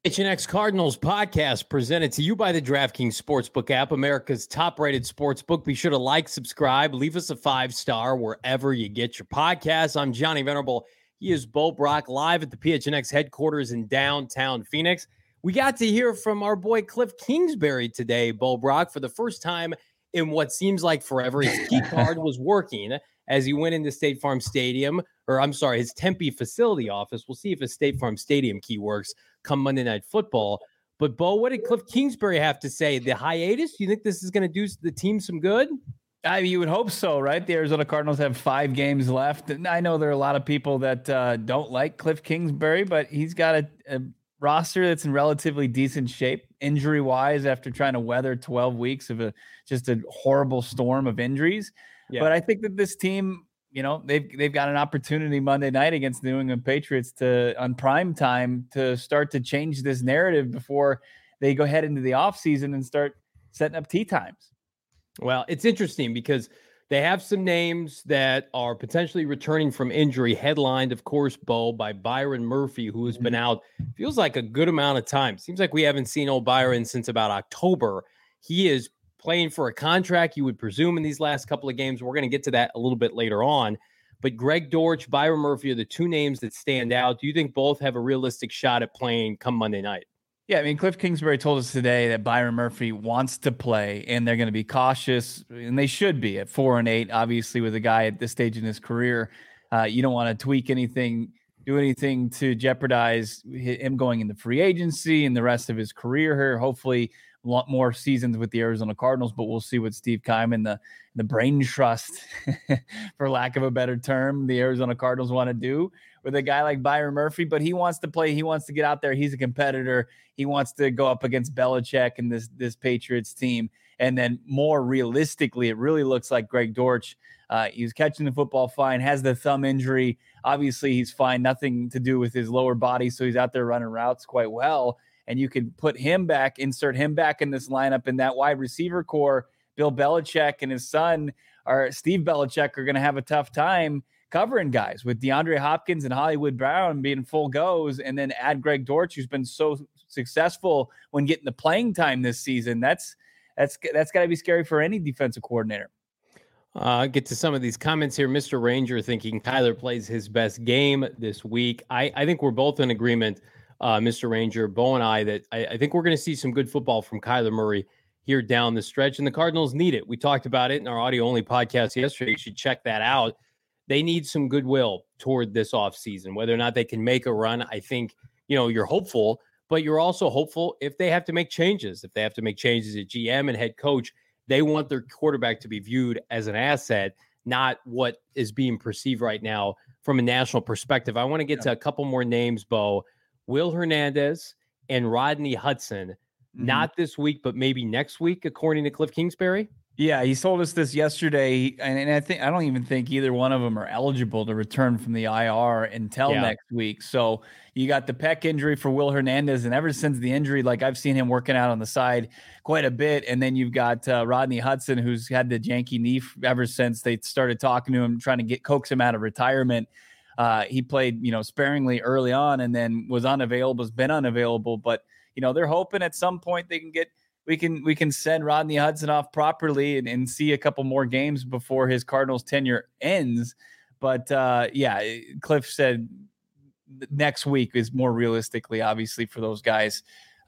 PHNX Cardinals podcast presented to you by the DraftKings Sportsbook app, America's top-rated sportsbook. Be sure to like, subscribe, leave us a 5-star wherever you get your podcasts. I'm Johnny Venerable. He is Bo Brock, live at the PHNX headquarters in downtown Phoenix. We got to hear from our boy Cliff Kingsbury today, Bo Brock, for the first time in what seems like forever. His key card was working as he went into State Farm Stadium, his Tempe facility office. We'll see if his State Farm Stadium key works come Monday Night Football. But, Bo, what did Cliff Kingsbury have to say? The hiatus? Do you think this is going to do the team some good? I mean, you would hope so, right? The Arizona Cardinals have 5 games left. And I know there are a lot of people that don't like Cliff Kingsbury, but he's got a roster that's in relatively decent shape injury-wise after trying to weather 12 weeks of just a horrible storm of injuries. Yeah. But I think that this team, you know, they've got an opportunity Monday night against the New England Patriots on prime time to start to change this narrative before they go head into the offseason and start setting up tee times. Well, it's interesting because they have some names that are potentially returning from injury, headlined, of course, Bo, by Byron Murphy, who has been out, feels like a good amount of time. Seems like we haven't seen old Byron since about October. He is playing for a contract, you would presume, in these last couple of games. We're going to get to that a little bit later on. But Greg Dortch, Byron Murphy are the two names that stand out. Do you think both have a realistic shot at playing come Monday night? Yeah, I mean, Cliff Kingsbury told us today that Byron Murphy wants to play, and they're going to be cautious, and they should be at 4-8. Obviously, with a guy at this stage in his career, you don't want to tweak anything, do anything to jeopardize him going into free agency and the rest of his career here. Hopefully, a lot more seasons with the Arizona Cardinals, but we'll see what Steve Keiman, the brain trust, for lack of a better term, the Arizona Cardinals want to do with a guy like Byron Murphy. But he wants to play. He wants to get out there. He's a competitor. He wants to go up against Belichick and this Patriots team. And then more realistically, it really looks like Greg Dortch. He was catching the football fine, has the thumb injury. Obviously, he's fine. Nothing to do with his lower body. So he's out there running routes quite well. And you could put him back, insert him back in this lineup, in that wide receiver core. Bill Belichick and his son, or Steve Belichick, are going to have a tough time covering guys with DeAndre Hopkins and Hollywood Brown being full goes, and then add Greg Dortch, who's been so successful when getting the playing time this season. That's got to be scary for any defensive coordinator. I'll get to some of these comments here. Mr. Ranger thinking Kyler plays his best game this week. I think we're both in agreement, Mr. Ranger, Bo and I, that I think we're going to see some good football from Kyler Murray here down the stretch, and the Cardinals need it. We talked about it in our audio-only podcast yesterday. You should check that out. They need some goodwill toward this offseason, whether or not they can make a run. I think, you're hopeful, but you're also hopeful if they have to make changes. If they have to make changes at GM and head coach, they want their quarterback to be viewed as an asset, not what is being perceived right now from a national perspective. I want to get to a couple more names, Bo. Will Hernandez and Rodney Hudson, not this week, but maybe next week, according to Cliff Kingsbury. Yeah, he told us this yesterday, and I don't even think either one of them are eligible to return from the IR until next week. So you got the pec injury for Will Hernandez, and ever since the injury, like, I've seen him working out on the side quite a bit. And then you've got Rodney Hudson, who's had the janky knee ever since they started talking to him, trying to coax him out of retirement. He played, sparingly early on, and then was unavailable, has been unavailable. But they're hoping at some point they can get. We can send Rodney Hudson off properly and see a couple more games before his Cardinals tenure ends. But Cliff said next week is more realistically, obviously, for those guys.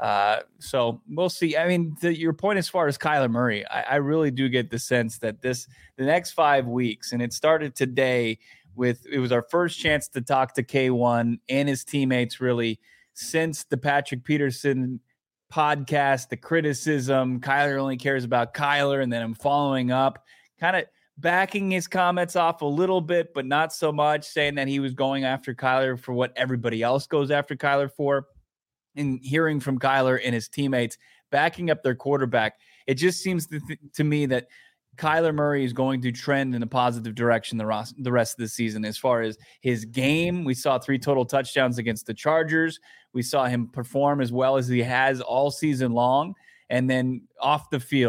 So we'll see. I mean, your point as far as Kyler Murray, I really do get the sense that the next 5 weeks, and it started today it was our first chance to talk to K1 and his teammates really since the Patrick Peterson podcast, the criticism, Kyler only cares about Kyler, and then I'm following up, kind of backing his comments off a little bit, but not so much, saying that he was going after Kyler for what everybody else goes after Kyler for, and hearing from Kyler and his teammates backing up their quarterback. It just seems to me that Kyler Murray is going to trend in a positive direction the rest of the season. As far as his game, we saw 3 total touchdowns against the Chargers. We saw him perform as well as he has all season long. And then off the field,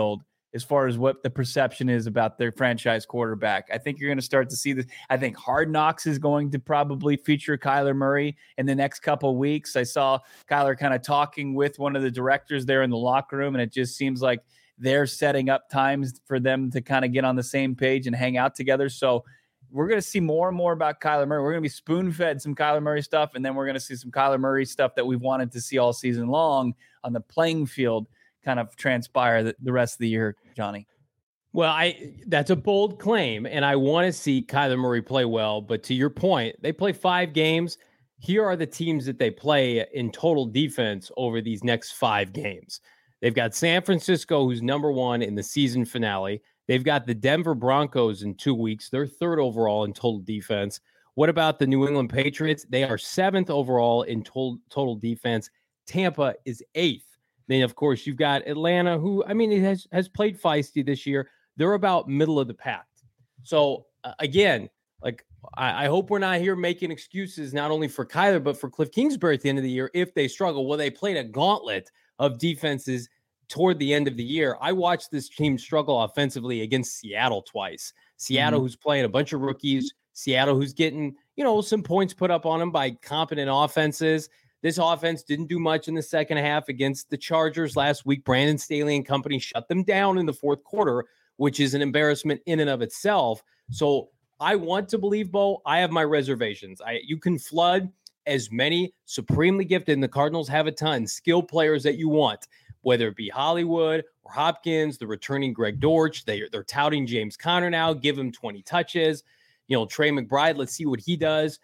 as far as what the perception is about their franchise quarterback. I think you're going to start to see this. I think Hard Knocks is going to probably feature Kyler Murray in the next couple of weeks. I saw Kyler kind of talking with one of the directors there in the locker room, and it just seems like they're setting up times for them to kind of get on the same page and hang out together. So we're going to see more and more about Kyler Murray. We're going to be spoon-fed some Kyler Murray stuff, and then we're going to see some Kyler Murray stuff that we've wanted to see all season long on the playing field kind of transpire the rest of the year, Johnny. Well, that's a bold claim, and I want to see Kyler Murray play well. But to your point, they play 5 games. Here are the teams that they play in total defense over these next 5 games. They've got San Francisco, who's number 1 in the season finale. They've got the Denver Broncos in 2 weeks. They're 3rd overall in total defense. What about the New England Patriots? They are 7th overall in total defense. Tampa is 8th. Then, of course, you've got Atlanta, who, I mean, it has played feisty this year. They're about middle of the pack. So, again, like, I hope we're not here making excuses not only for Kyler, but for Cliff Kingsbury at the end of the year if they struggle. Well, they played a gauntlet of defenses toward the end of the year. I watched this team struggle offensively against Seattle twice. Seattle, who's playing a bunch of rookies. Seattle, who's getting, some points put up on them by competent offenses. This offense didn't do much in the second half against the Chargers last week. Brandon Staley and company shut them down in the fourth quarter, which is an embarrassment in and of itself. So I want to believe, Bo. I have my reservations. You can flood as many supremely gifted, and the Cardinals have a ton, skilled players that you want, whether it be Hollywood or Hopkins, the returning Greg Dortch. They're touting James Conner now. Give him 20 touches. Trey McBride, let's see what he does.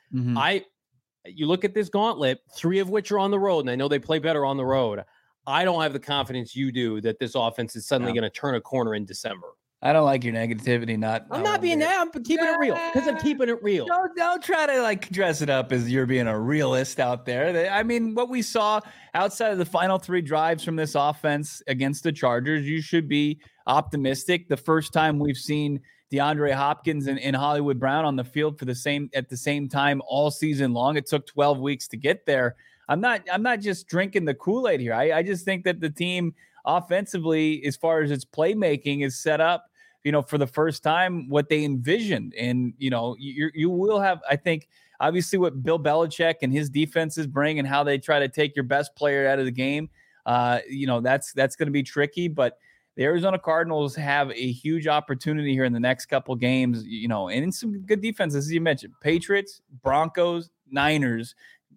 You look at this gauntlet, 3 of which are on the road, and I know they play better on the road. I don't have the confidence you do that this offense is suddenly going to turn a corner in December. I don't like your negativity. I'm not being that. I'm keeping it real because I'm keeping it real. Don't try to dress it up as you're being a realist out there. I mean, what we saw outside of the final 3 drives from this offense against the Chargers, you should be optimistic. The first time we've seen DeAndre Hopkins and Hollywood Brown on the field at the same time all season long. It took 12 weeks to get there. I'm not just drinking the Kool-Aid here. I just think that the team offensively, as far as its playmaking, is set up, for the first time what they envisioned. And, you will have, I think, obviously what Bill Belichick and his defenses bring and how they try to take your best player out of the game. That's going to be tricky, but the Arizona Cardinals have a huge opportunity here in the next couple games, and in some good defenses, as you mentioned, Patriots, Broncos, Niners,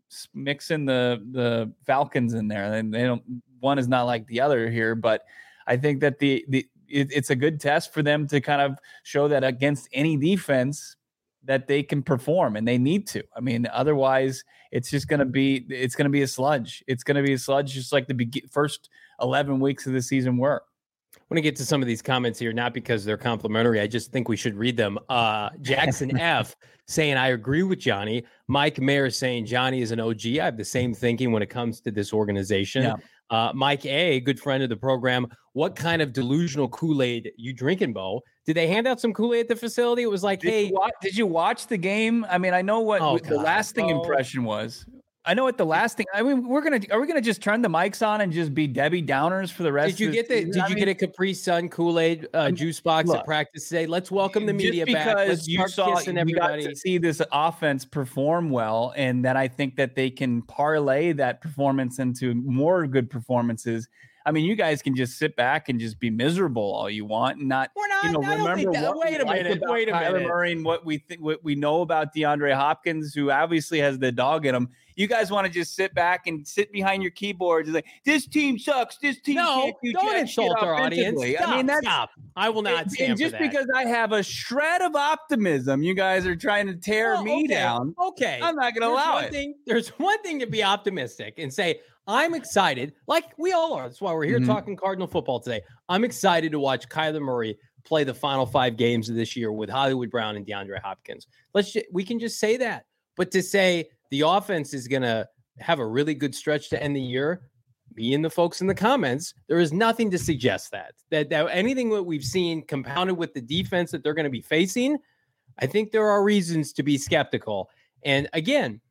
mix in the Falcons in there. And one is not like the other here, but I think that it's a good test for them to kind of show that against any defense that they can perform, and they need to. I mean, otherwise it's going to be a sludge. It's going to be a sludge, just like the first 11 weeks of the season were. I want to get to some of these comments here, not because they're complimentary. I just think we should read them. Jackson F. saying, I agree with Johnny. Mike Mayer saying, Johnny is an OG. I have the same thinking when it comes to this organization. Yeah. Mike A., good friend of the program, what kind of delusional Kool-Aid you drinking, Bo? Did they hand out some Kool-Aid at the facility? It was like, did you watch the game? I mean, I know what the lasting impression was. I know what the last thing. I mean, are we gonna just turn the mics on and just be Debbie Downers for the rest? Did you get a Capri Sun Kool-Aid juice box at practice today? Let's welcome the media back. Let's you got to see this offense perform well, and that I think that they can parlay that performance into more good performances. I mean, you guys can just sit back and just be miserable all you want, and not. We're not. Remember what wait a minute. Kyler Murray and what we know about DeAndre Hopkins, who obviously has the dog in him. You guys want to just sit back and sit behind your keyboards and like, this team sucks. This team can't do don't insult our audience. Stop. I will not stand for that. Just because I have a shred of optimism, you guys are trying to tear me down. Okay. I'm not going to allow it. There's one thing to be optimistic and say, I'm excited, like we all are. That's why we're here talking Cardinal football today. I'm excited to watch Kyler Murray play the final 5 games of this year with Hollywood Brown and DeAndre Hopkins. We can just say that. But to say the offense is going to have a really good stretch to end the year, me and the folks in the comments, there is nothing to suggest that anything that we've seen compounded with the defense that they're going to be facing, I think there are reasons to be skeptical. And again,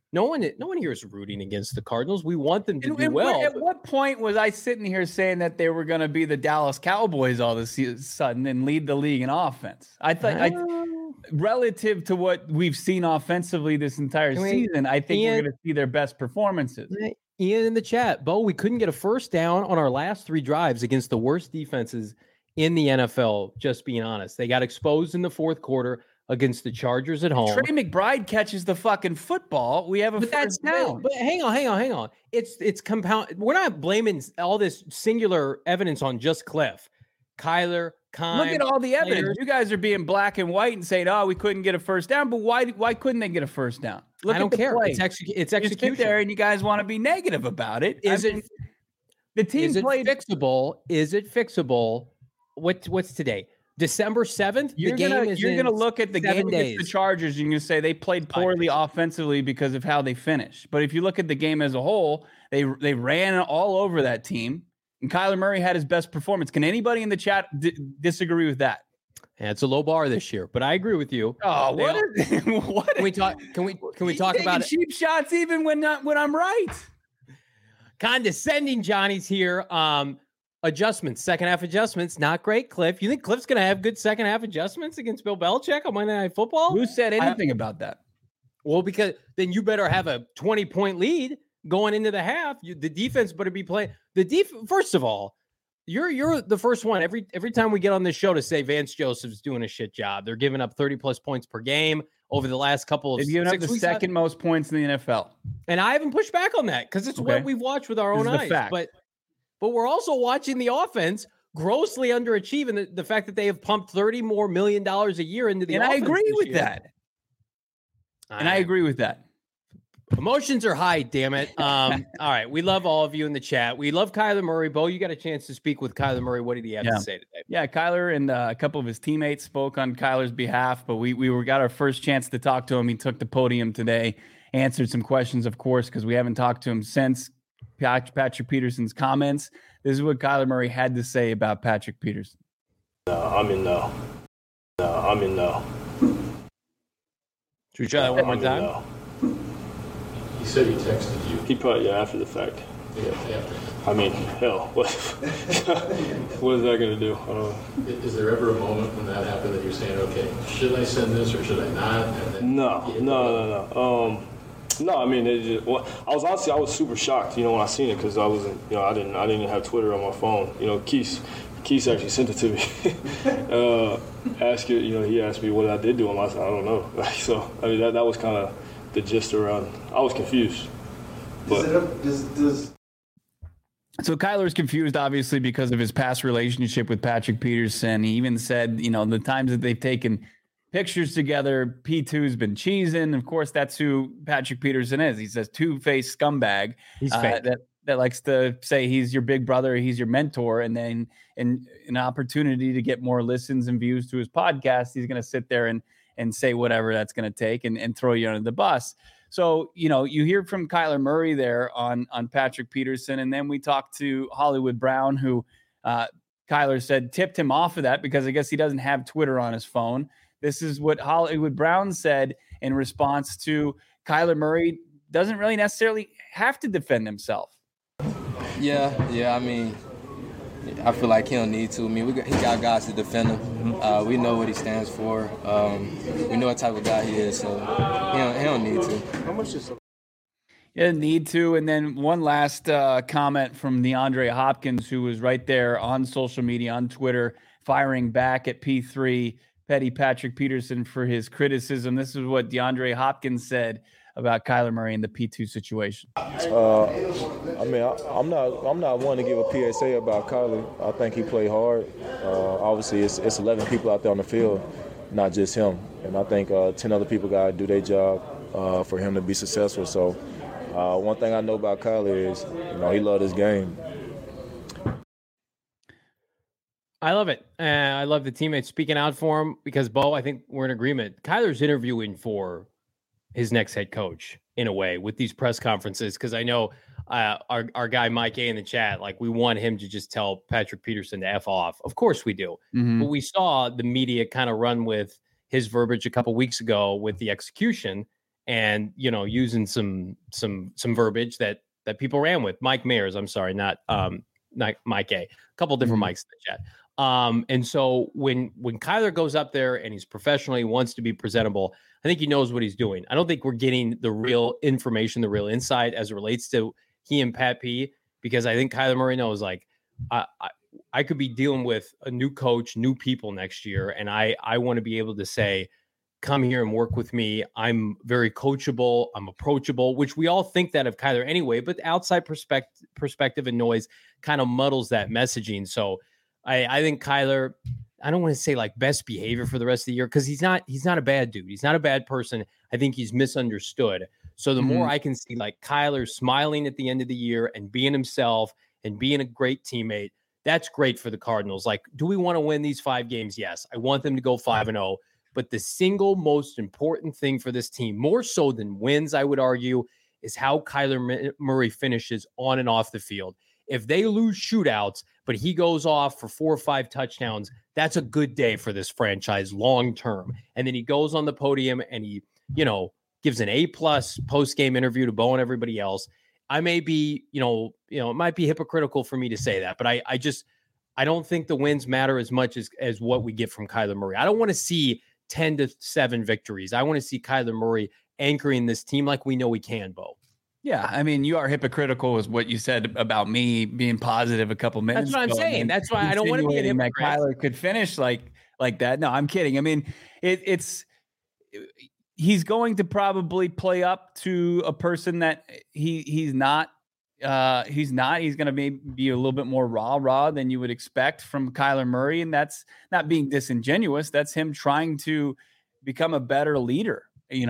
No one here is rooting against the Cardinals. We want them to do well. At what point was I sitting here saying that they were going to be the Dallas Cowboys all of a sudden and lead the league in offense? I thought, relative to what we've seen offensively this entire season, I think we're going to see their best performances. Ian in the chat, Bo, we couldn't get a first down on our last 3 drives against the worst defenses in the NFL, just being honest. They got exposed in the fourth quarter against the Chargers at home. Trey McBride catches the fucking football. We have a first down. But hang on. It's compound. We're not blaming all this singular evidence on just Cliff. Kyler, Kime. Look at all the evidence. You guys are being black and white and saying, "Oh, we couldn't get a first down." But why couldn't they get a first down? Look, I don't care. Play. It's execution. You sit there and you guys want to be negative about it. The team played fixable? Is it fixable? What's today? December 7th. You're gonna look at the game against the Chargers. You're gonna say they played poorly offensively because of how they finished. But if you look at the game as a whole, they ran all over that team. And Kyler Murray had his best performance. Can anybody in the chat disagree with that? Yeah, it's a low bar this year, but I agree with you. Oh, what? Can we talk? Can we talk about cheap shots even when I'm right? Condescending Johnny's here. Adjustments, second half adjustments, not great. Cliff, you think Cliff's going to have good second half adjustments against Bill Belichick on Monday Night Football? Who said anything about that? Well, because then you better have a 20-point lead going into the half. The defense better be playing. First of all, you're the first one every time we get on this show to say Vance Joseph's doing a shit job. They're giving up 30+ points per game over the last couple of. They've given up the second most points in the NFL, and I haven't pushed back on that because it's what we've watched with our own eyes. But we're also watching the offense grossly underachieving the fact that they have pumped $30 million more a year into the offense. And I agree with that. And I agree with that. Emotions are high, damn it. All right. We love all of you in the chat. We love Kyler Murray. Bo, you got a chance to speak with Kyler Murray. What did he have to say today? Yeah, Kyler and a couple of his teammates spoke on Kyler's behalf, but we got our first chance to talk to him. He took the podium today, answered some questions, of course, because we haven't talked to him since Patrick Peterson's comments. This is what Kyler Murray had to say about Patrick Peterson. I'm in no. Should we try that one more time? No. He said he texted you. He probably, after the fact. Yeah. I mean, hell, what is that going to do? Is there ever a moment when that happened that you're saying, okay, should I send this or should I not? And then No. No, I mean, I was super shocked, when I seen it because I wasn't, I didn't have Twitter on my phone. Keith actually sent it to me. He asked me what I did to him. I said, I don't know. So, I mean, that was kind of the gist around. I was confused. But So Kyler's confused, obviously, because of his past relationship with Patrick Peterson. He even said, the times that they've taken pictures together, P2's been cheesing. Of course, that's who Patrick Peterson is. He's a two-faced scumbag. He's fake. That likes to say he's your big brother, he's your mentor, and then in an opportunity to get more listens and views to his podcast, he's going to sit there and say whatever that's going to take and throw you under the bus. So, you hear from Kyler Murray there on Patrick Peterson, and then we talked to Hollywood Brown, who Kyler said tipped him off of that because I guess he doesn't have Twitter on his phone. This is what Hollywood Brown said in response to Kyler Murray doesn't really necessarily have to defend himself. Yeah. I mean, I feel like he don't need to. I mean, he got guys to defend him. We know what he stands for. We know what type of guy he is, so he don't need to. How much is He doesn't need to. And then one last comment from DeAndre Hopkins, who was right there on social media, on Twitter, firing back at P3, Petty Patrick Peterson, for his criticism. This is what DeAndre Hopkins said about Kyler Murray in the P2 situation. I mean, I'm not one to give a PSA about Kyler. I think he played hard. Obviously, it's 11 people out there on the field, not just him. And I think 10 other people got to do their job for him to be successful. So one thing I know about Kyler is, he loved his game. I love it. I love the teammates speaking out for him because, Bo, I think we're in agreement. Kyler's interviewing for his next head coach in a way with these press conferences, because I know our guy Mike A in the chat, like, we want him to just tell Patrick Peterson to F off. Of course we do. Mm-hmm. But we saw the media kind of run with his verbiage a couple weeks ago with the execution, and, using some verbiage that people ran with. Mike Mayers, I'm sorry, not Mike A. A couple different mics in the chat. And so when Kyler goes up there and he's professional, he wants to be presentable, I think he knows what he's doing. I don't think we're getting the real information, the real insight as it relates to he and Pat P, because I think Kyler Murray knows, like, I could be dealing with a new coach, new people next year, and I want to be able to say, come here and work with me. I'm very coachable. I'm approachable, which we all think that of Kyler anyway, but the outside perspective and noise kind of muddles that messaging. So I think Kyler, I don't want to say like best behavior for the rest of the year, because he's not a bad dude. He's not a bad person. I think he's misunderstood. So the more I can see like Kyler smiling at the end of the year and being himself and being a great teammate, that's great for the Cardinals. Like, do we want to win these 5 games? Yes. I want them to go 5-0. But the single most important thing for this team, more so than wins, I would argue, is how Kyler Murray finishes on and off the field. If they lose shootouts, but he goes off for 4 or 5 touchdowns, that's a good day for this franchise long term. And then he goes on the podium and he, gives an A+ post-game interview to Bo and everybody else. I may be, it might be hypocritical for me to say that, but I don't think the wins matter as much as what we get from Kyler Murray. I don't want to see 10-7 victories. I want to see Kyler Murray anchoring this team like we know he can, Bo. Yeah, I mean, you are hypocritical with what you said about me being positive a couple minutes ago. That's what I'm saying. That's why I don't want to be a hypocrite. Kyler could finish like that. No, I'm kidding. I mean, he's going to probably play up to a person that he's not. He's going to be a little bit more raw than you would expect from Kyler Murray. And that's not being disingenuous. That's him trying to become a better leader.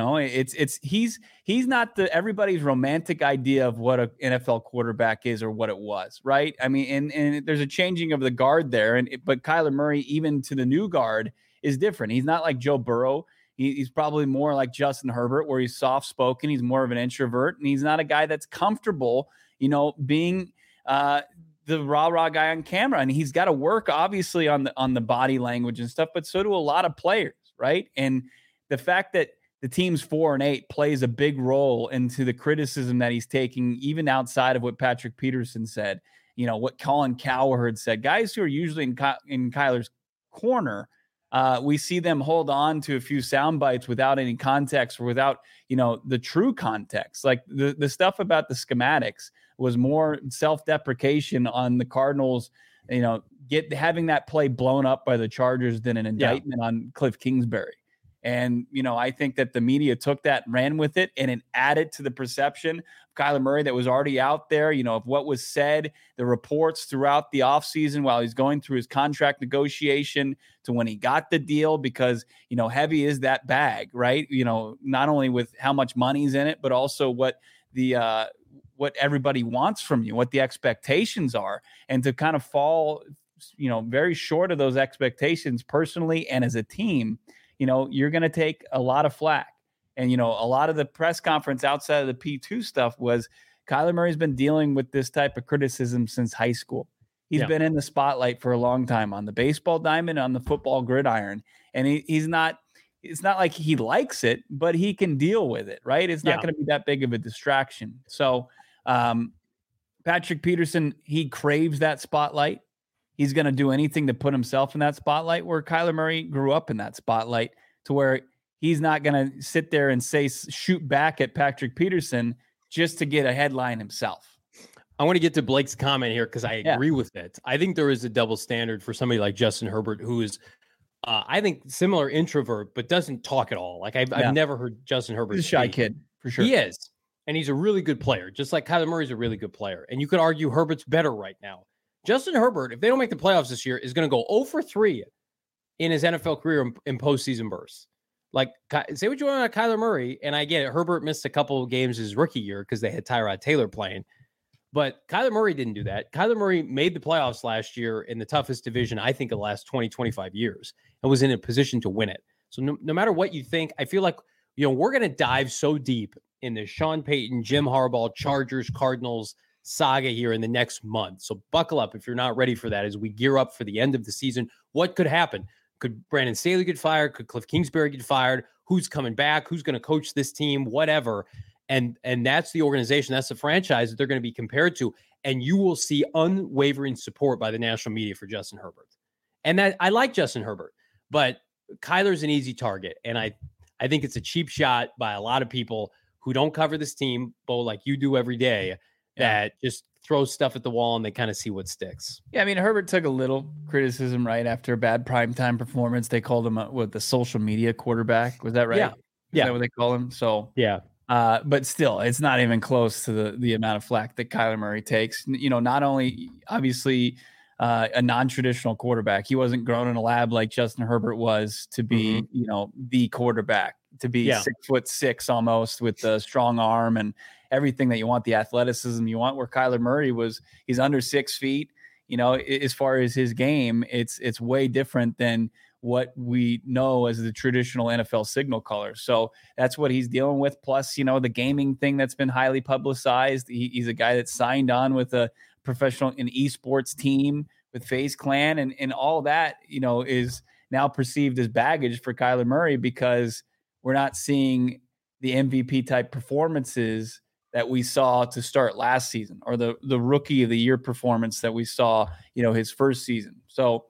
He's not everybody's romantic idea of what an NFL quarterback is or what it was. Right. I mean, and there's a changing of the guard there. But Kyler Murray, even to the new guard, is different. He's not like Joe Burrow. He's probably more like Justin Herbert, where he's soft-spoken. He's more of an introvert, and he's not a guy that's comfortable, being the rah-rah guy on camera. And he's got to work, obviously, on the body language and stuff, but so do a lot of players, right? And the fact that the team's 4-8 plays a big role into the criticism that he's taking, even outside of what Patrick Peterson said, what Colin Cowherd said. Guys who are usually in Kyler's corner, we see them hold on to a few sound bites without any context or without, the true context. Like the stuff about the schematics was more self-deprecation on the Cardinals, having that play blown up by the Chargers than an indictment on Cliff Kingsbury. And, I think that the media took that and ran with it, and it added to the perception of Kyler Murray that was already out there, of what was said, the reports throughout the offseason while he's going through his contract negotiation to when he got the deal, because, heavy is that bag, right? Not only with how much money's in it, but also what everybody wants from you, what the expectations are, and to kind of fall, very short of those expectations personally and as a team. You're going to take a lot of flack. And, a lot of the press conference outside of the P2 stuff was Kyler Murray's been dealing with this type of criticism since high school. He's been in the spotlight for a long time on the baseball diamond, on the football gridiron. And it's not like he likes it, but he can deal with it, right? It's not going to be that big of a distraction. So Patrick Peterson, he craves that spotlight. He's going to do anything to put himself in that spotlight, where Kyler Murray grew up in that spotlight, to where he's not going to sit there and shoot back at Patrick Peterson just to get a headline himself. I want to get to Blake's comment here because I agree with it. I think there is a double standard for somebody like Justin Herbert, who is, I think, similar introvert, but doesn't talk at all. Like I've never heard Justin Herbert. He's a shy kid, for sure. He is. And he's a really good player, just like Kyler Murray's a really good player. And you could argue Herbert's better right now. Justin Herbert, if they don't make the playoffs this year, is going to go 0-for-3 in his NFL career in postseason bursts. Like, say what you want about Kyler Murray, and I get it. Herbert missed a couple of games his rookie year because they had Tyrod Taylor playing. But Kyler Murray didn't do that. Kyler Murray made the playoffs last year in the toughest division, I think, of the last 20, 25 years, and was in a position to win it. So no matter what you think, I feel like, we're going to dive so deep in the Sean Payton, Jim Harbaugh, Chargers, Cardinals saga here in the next month. So buckle up if you're not ready for that as we gear up for the end of the season. What could happen? Could Brandon Staley get fired? Could Cliff Kingsbury get fired? who's coming back, who's going to coach this team, whatever. And that's the organization, that's the franchise that they're going to be compared to. And you will see unwavering support by the national media for Justin Herbert. And that I like Justin Herbert, but Kyler's an easy target. And I think it's a cheap shot by a lot of people who don't cover this team, Bo, like you do every day, that just throw stuff at the wall and they kind of see what sticks. Yeah, I mean, Herbert took a little criticism right after a bad primetime performance. They called him the social media quarterback. Was that right? Yeah. Is that what they call him? So yeah. But still, it's not even close to the amount of flack that Kyler Murray takes. You know, not only obviously a non-traditional quarterback, he wasn't grown in a lab like Justin Herbert was to be, you know, the quarterback, to be 6'6" almost with a strong arm and everything that you want, the athleticism you want. Where Kyler Murray he's under 6 feet. You know, as far as his game, it's way different than what we know as the traditional NFL signal caller. So that's what he's dealing with. Plus, you know, the gaming thing that's been highly publicized. He's a guy that signed on with a professional and esports team with FaZe Clan, and all that, you know, is now perceived as baggage for Kyler Murray because we're not seeing the MVP type performances that we saw to start last season, or the rookie of the year performance that we saw, you know, his first season. So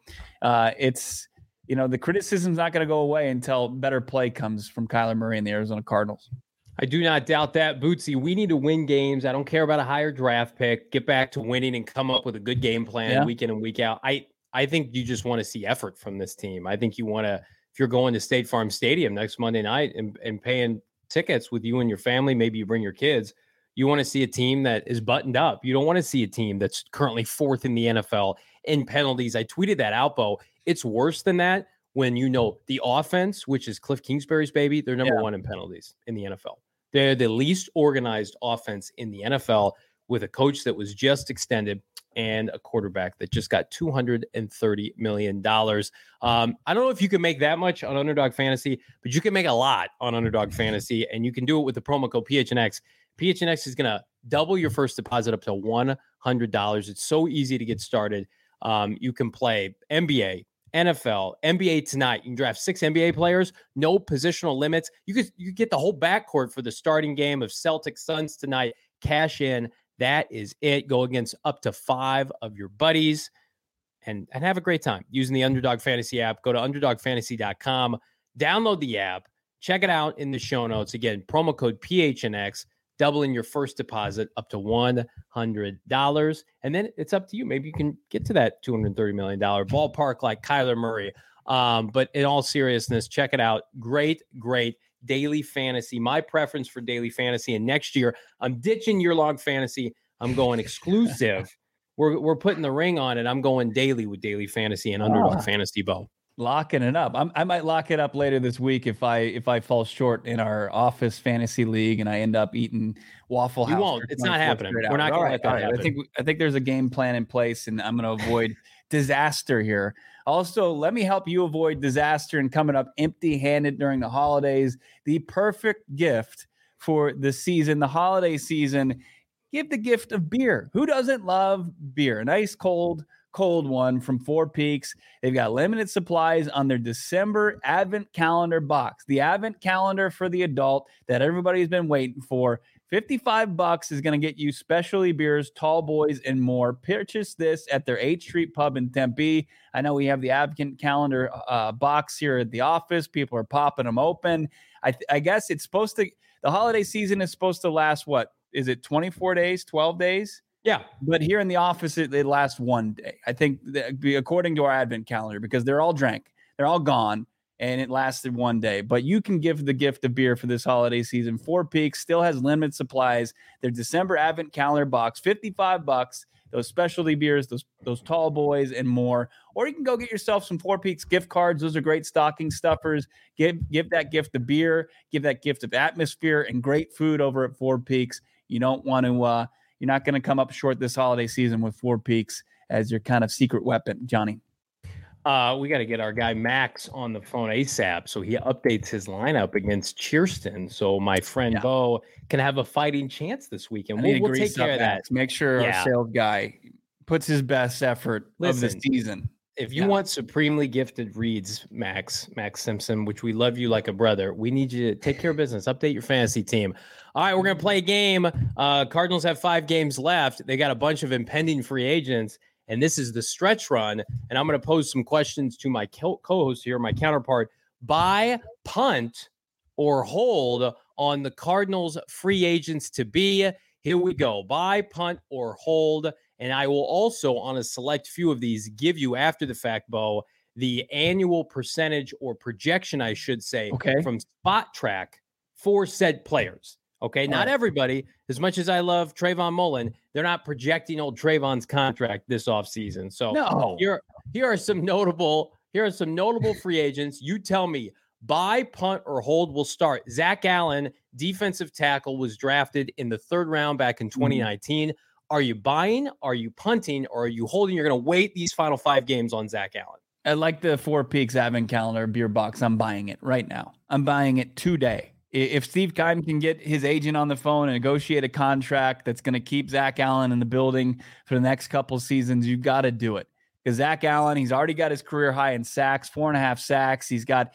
it's, you know, the criticism's not going to go away until better play comes from Kyler Murray and the Arizona Cardinals. I do not doubt that, Bootsy. We need to win games. I don't care about a higher draft pick. Get back to winning and come up with a good game plan week in and week out. I think you just want to see effort from this team. I think you want to, if you're going to State Farm Stadium next Monday night and paying tickets with you and your family, maybe you bring your kids, you want to see a team that is buttoned up. You don't want to see a team that's currently 4th in the NFL in penalties. I tweeted that out, Bo. It's worse than that when you know the offense, which is Cliff Kingsbury's baby, they're number 1 in penalties in the NFL. They're the least organized offense in the NFL with a coach that was just extended and a quarterback that just got $230 million. I don't know if you can make that much on Underdog Fantasy, but you can make a lot on Underdog Fantasy, and you can do it with the promo code PHNX. PHNX is going to double your first deposit up to $100. It's so easy to get started. You can play NBA, NFL, NBA tonight. You can draft 6 NBA players, no positional limits. You get the whole backcourt for the starting game of Celtics Suns tonight. Cash in. That is it. Go against up to 5 of your buddies and have a great time using the Underdog Fantasy app. Go to underdogfantasy.com, download the app, check it out in the show notes. Again, promo code PHNX, doubling your first deposit up to $100. And then it's up to you. Maybe you can get to that $230 million ballpark like Kyler Murray. But in all seriousness, check it out. Great daily fantasy. My preference for daily fantasy. And next year, I'm ditching year-long fantasy. I'm going exclusive. We're putting the ring on it. I'm going daily with daily fantasy and Underdog Fantasy, Bo. Locking it up. I might lock it up later this week if I fall short in our office fantasy league and I end up eating Waffle House. You won't. It's not happening. We're not going to let that happen. I think there's a game plan in place, and I'm going to avoid disaster here. Also, let me help you avoid disaster and coming up empty-handed during the holidays. The perfect gift for the season, the holiday season. Give the gift of beer. Who doesn't love beer? A nice cold one from Four Peaks. They've got limited supplies on their December Advent Calendar box. The Advent Calendar for the adult that everybody's been waiting for. $55 is going to get you specialty beers, tall boys, and more. Purchase this at their 8th Street Pub in Tempe. I know we have the Advent Calendar box here at the office. People are popping them open. I guess it's supposed to, the holiday season is supposed to last, what, is it 24 days, 12 days? Yeah. But here in the office, it lasts 1 day. I think according to our Advent Calendar, because they're all drank, they're all gone, and it lasted 1 day. But you can give the gift of beer for this holiday season. Four Peaks still has limited supplies. Their December Advent Calendar box, $55. Those specialty beers, those tall boys, and more. Or you can go get yourself some Four Peaks gift cards. Those are great stocking stuffers. Give that gift of beer. Give that gift of atmosphere and great food over at Four Peaks. You don't want to. You're not going to come up short this holiday season with Four Peaks as your kind of secret weapon, Johnny. We got to get our guy Max on the phone ASAP so he updates his lineup against Cheerston so my friend Bo can have a fighting chance this weekend. We'll take care of that. Make sure our sales guy puts his best effort of the season. If you want supremely gifted reads, Max Simpson, which we love you like a brother, we need you to take care of business, update your fantasy team. All right, we're going to play a game. Cardinals have 5 games left. They got a bunch of impending free agents, and this is the stretch run. And I'm going to pose some questions to my co-host here, my counterpart. Buy, punt, or hold on the Cardinals free agents to be. Here we go. Buy, punt, or hold. And I will also, on a select few of these, give you, after the fact, Bo, the annual percentage or projection, I should say, from Spot Track for said players. Okay, not everybody. As much as I love Trayvon Mullen, they're not projecting old Trayvon's contract this offseason. So here are some notable free agents. You tell me, buy, punt, or hold. Will start. Zach Allen, defensive tackle, was drafted in the 3rd round back in 2019. Are you buying? Are you punting? Or are you holding? You're going to wait these final 5 games on Zach Allen. I like the Four Peaks advent calendar beer box. I'm buying it right now. I'm buying it today. If Steve Keim can get his agent on the phone and negotiate a contract that's going to keep Zach Allen in the building for the next couple seasons, you've got to do it. Because Zach Allen, he's already got his career high in sacks, 4.5 sacks. He's got,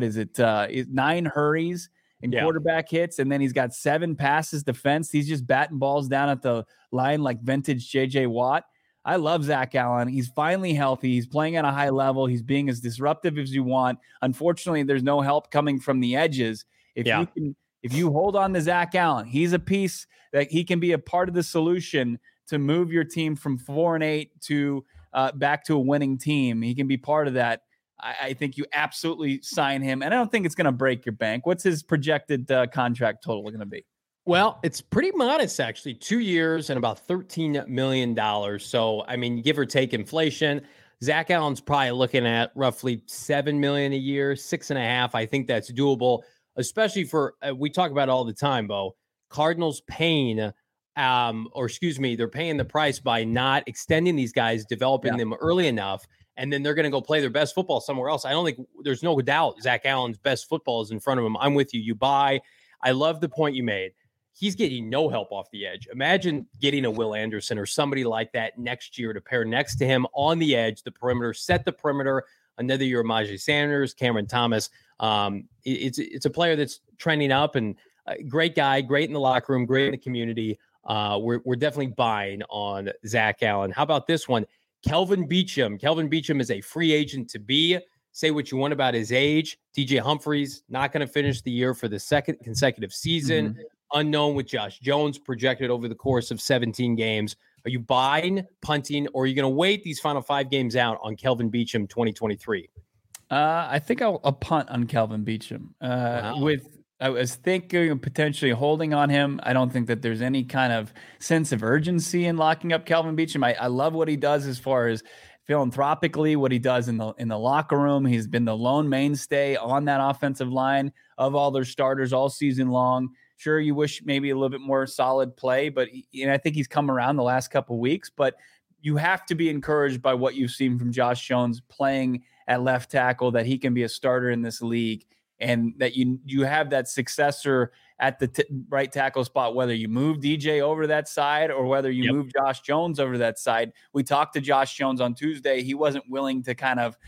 9 hurries and quarterback hits, and then he's got 7 passes defense. He's just batting balls down at the line like vintage J.J. Watt. I love Zach Allen. He's finally healthy. He's playing at a high level. He's being as disruptive as you want. Unfortunately, there's no help coming from the edges. If you hold on to Zach Allen, he's a piece that he can be a part of the solution to move your team from 4-8 to back to a winning team. He can be part of that. I think you absolutely sign him, and I don't think it's going to break your bank. What's his projected contract total going to be? Well, it's pretty modest, actually. 2 years and about $13 million. So, I mean, give or take inflation, Zach Allen's probably looking at roughly $7 million a year, 6.5. I think that's doable, especially for we talk about it all the time, Bo. Cardinals paying, they're paying the price by not extending these guys, developing them early enough. And then they're going to go play their best football somewhere else. I don't think there's no doubt Zach Allen's best football is in front of him. I'm with you. You buy. I love the point you made. He's getting no help off the edge. Imagine getting a Will Anderson or somebody like that next year to pair next to him on the edge, the perimeter, set the perimeter. Another year, Myjai Sanders, Cameron Thomas. It's a player that's trending up and great guy, great in the locker room, great in the community. We're definitely buying on Zach Allen. How about this one? Kelvin Beachum. Kelvin Beachum is a free agent to be. Say what you want about his age. DJ Humphries not going to finish the year for the 2nd consecutive season. Unknown with Josh Jones projected over the course of 17 games. Are you buying, punting, or are you going to wait these final 5 games out on Kelvin Beachum 2023? I think I'll punt on Kelvin Beachum. I was thinking of potentially holding on him. I don't think that there's any kind of sense of urgency in locking up Kelvin Beachum. I love what he does as far as philanthropically, what he does in the locker room. He's been the lone mainstay on that offensive line of all their starters all season long. Sure, you wish maybe a little bit more solid play, but I think he's come around the last couple of weeks. But you have to be encouraged by what you've seen from Josh Jones playing at left tackle, that he can be a starter in this league. And that you have that successor at the right tackle spot, whether you move DJ over that side or whether you move Josh Jones over that side. We talked to Josh Jones on Tuesday. He wasn't willing to kind of,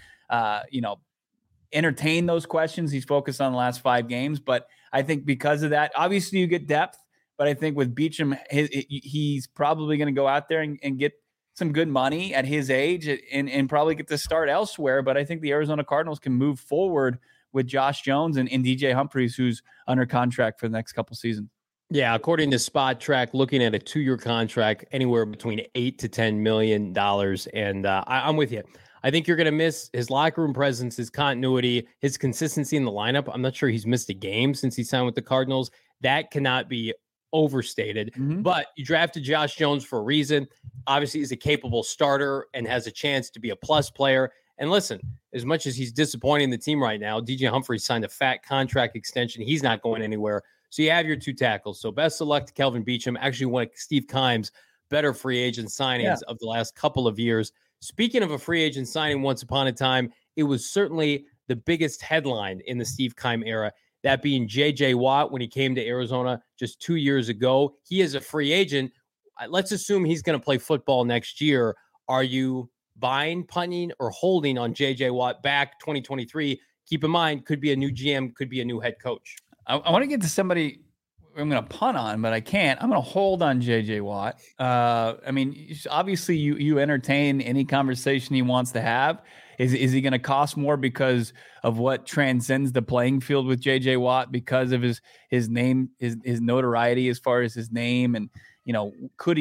entertain those questions. He's focused on the last 5 games. But I think because of that, obviously you get depth. But I think with Beachum, he's probably going to go out there and get some good money at his age and probably get to start elsewhere. But I think the Arizona Cardinals can move forward with Josh Jones and DJ Humphries, who's under contract for the next couple seasons. Yeah, according to Spot Track, looking at a 2-year contract, anywhere between $8 to $10 million. And I'm with you. I think you're going to miss his locker room presence, his continuity, his consistency in the lineup. I'm not sure he's missed a game since he signed with the Cardinals. That cannot be overstated. But you drafted Josh Jones for a reason. Obviously, he's a capable starter and has a chance to be a plus player. And listen, as much as he's disappointing the team right now, DJ Humphries signed a fat contract extension. He's not going anywhere. So you have your 2 tackles. So best of luck to Kelvin Beachum. Actually, one of Steve Keim's better free agent signings of the last couple of years. Speaking of a free agent signing once upon a time, it was certainly the biggest headline in the Steve Keim era, that being J.J. Watt when he came to Arizona just 2 years ago. He is a free agent. Let's assume he's going to play football next year. Are you buying, punting, or holding on J.J. Watt back 2023? Keep in mind, could be a new GM, could be a new head coach. I want to get to somebody I'm going to punt on, but I can't. I'm going to hold on J.J. Watt. I mean, obviously you entertain any conversation he wants to have. Is he going to cost more because of what transcends the playing field with J.J. Watt, because of his name, his notoriety as far as his name? And, does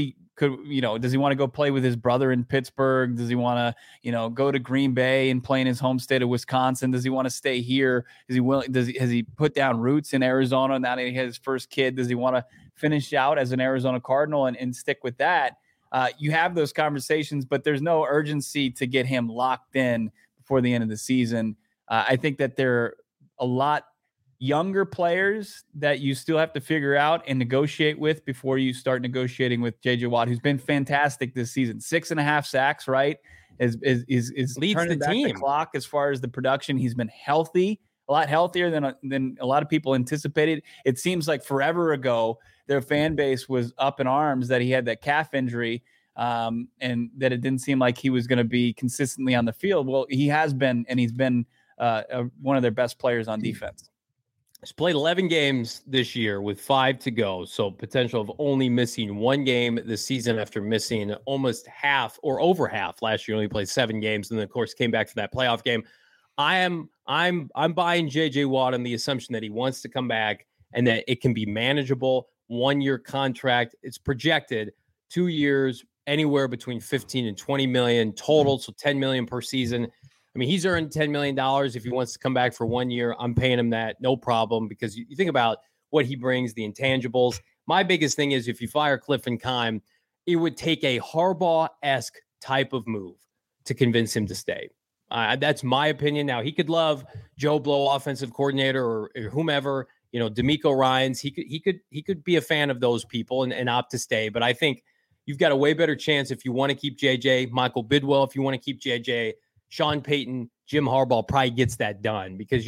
he want to go play with his brother in Pittsburgh? Does he want to, go to Green Bay and play in his home state of Wisconsin? Does he want to stay here? Is he willing? Has he put down roots in Arizona now that he has his first kid? Does he want to finish out as an Arizona Cardinal and stick with that? You have those conversations, but there's no urgency to get him locked in before the end of the season. I think that there are a lot younger players that you still have to figure out and negotiate with before you start negotiating with J.J. Watt, who's been fantastic this season. 6.5 sacks, right? Is leads turning the back team. The clock as far as the production. He's been healthy, a lot healthier than a lot of people anticipated. It seems like forever ago their fan base was up in arms that he had that calf injury, and that it didn't seem like he was going to be consistently on the field. Well, he has been, and he's been one of their best players on defense. He's played 11 games this year with 5 to go, so potential of only missing 1 game this season after missing almost half or over half last year. Only played 7 games, and then of course came back for that playoff game. I'm buying J.J. Watt on the assumption that he wants to come back and that it can be manageable. 1-year contract. It's projected 2 years, anywhere between 15 and 20 million total, so 10 million per season. I mean, he's earned $10 million. If he wants to come back for 1 year, I'm paying him that, no problem, because you think about what he brings, the intangibles. My biggest thing is if you fire Cliff and Keim, it would take a Harbaugh-esque type of move to convince him to stay. That's my opinion. Now, he could love Joe Blow, offensive coordinator, or whomever, D'Amico Ryans. He could be a fan of those people and opt to stay. But I think you've got a way better chance if you want to keep JJ, Michael Bidwell, if you want to keep JJ, Sean Payton, Jim Harbaugh probably gets that done because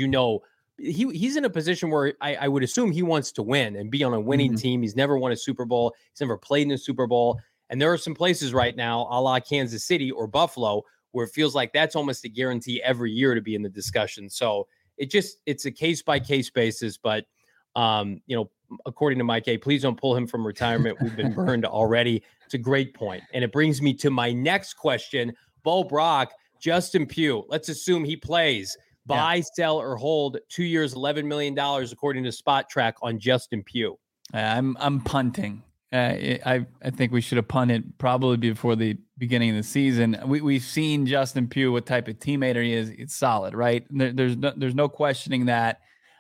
he's in a position where I would assume he wants to win and be on a winning team. He's never won a Super Bowl. He's never played in a Super Bowl. And there are some places right now, a la Kansas City or Buffalo, where it feels like that's almost a guarantee every year to be in the discussion. So it's a case-by-case basis. But, according to Mike A., please don't pull him from retirement. We've been burned already. It's a great point. And it brings me to my next question. Bo Brock, Justin Pugh, let's assume he plays. Buy, sell, or hold 2 years, $11 million, according to Spot Track on Justin Pugh. I'm punting. I think we should have punted probably before the beginning of the season. We've seen Justin Pugh, what type of teammate he is. It's solid, right? There's no questioning that.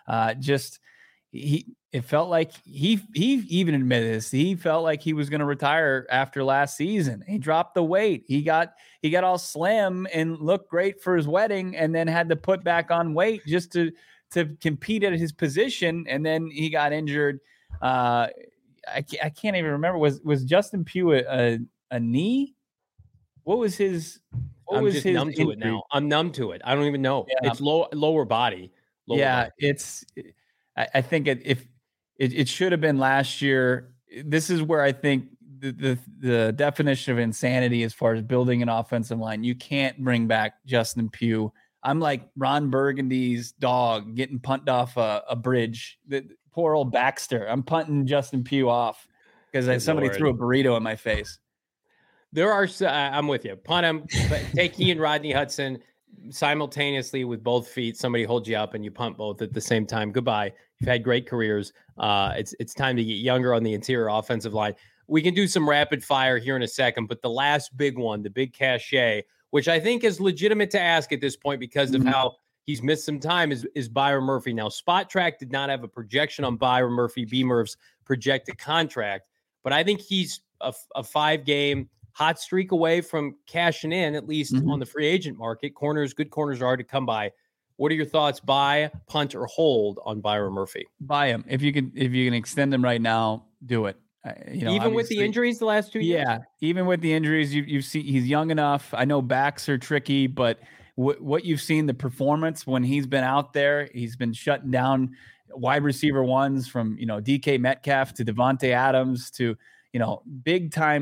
It felt like he even admitted this. He felt like he was going to retire after last season. He dropped the weight. He got all slim and looked great for his wedding, and then had to put back on weight just to compete at his position. And then he got injured. I can't even remember. Was Justin Pugh a knee? What was his? I'm just numb to it now. I'm numb to it. I don't even know. Yeah. It's lower body. Body. I think it should have been last year. This is where I think the definition of insanity as far as building an offensive line. You can't bring back Justin Pugh. I'm like Ron Burgundy's dog getting punted off a bridge. The poor old Baxter. I'm punting Justin Pugh off because somebody threw a burrito in my face. There are. I'm with you. Punt him. Take he and Rodney Hudson simultaneously with both feet. Somebody holds you up and you punt both at the same time. Goodbye. You've had great careers. It's time to get younger on the interior offensive line. We can do some rapid fire here in a second, but the last big one, the big cachet, which I think is legitimate to ask at this point because of how he's missed some time, is Byron Murphy. Now, Spot Track did not have a projection on Byron Murphy, B-Murph's projected contract, but I think he's a 5-game hot streak away from cashing in, at least on the free agent market. Good corners are hard to come by. What are your thoughts? Buy, punt, or hold on Byron Murphy? Buy him. If you can extend him right now, do it. Even with the injuries the last 2 years? Yeah, even with the injuries, you've seen he's young enough. I know backs are tricky, but what you've seen, the performance when he's been out there, he's been shutting down wide receiver ones from DK Metcalf to Devontae Adams to big time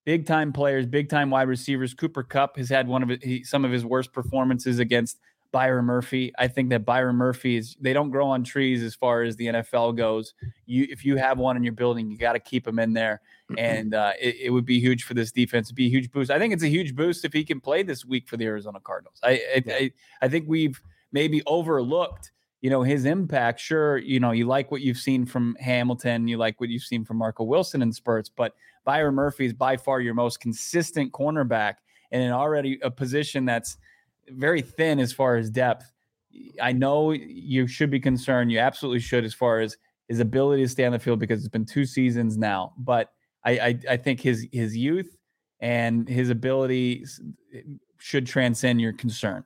big time players, big time wide receivers. Cooper Kupp has had some of his worst performances against Byron Murphy. I think that Byron Murphy they don't grow on trees as far as the NFL goes. If you have one in your building, you got to keep him in there. And it would be huge for this defense. It'd be a huge boost. I think it's a huge boost if he can play this week for the Arizona Cardinals. I think we've maybe overlooked, his impact. Sure, you like what you've seen from Hamilton. You like what you've seen from Marco Wilson in spurts. But Byron Murphy is by far your most consistent cornerback and in already a position that's very thin as far as depth. I know you should be concerned. You absolutely should as far as his ability to stay on the field because it's been 2 seasons now. But I think his youth and his ability should transcend your concern.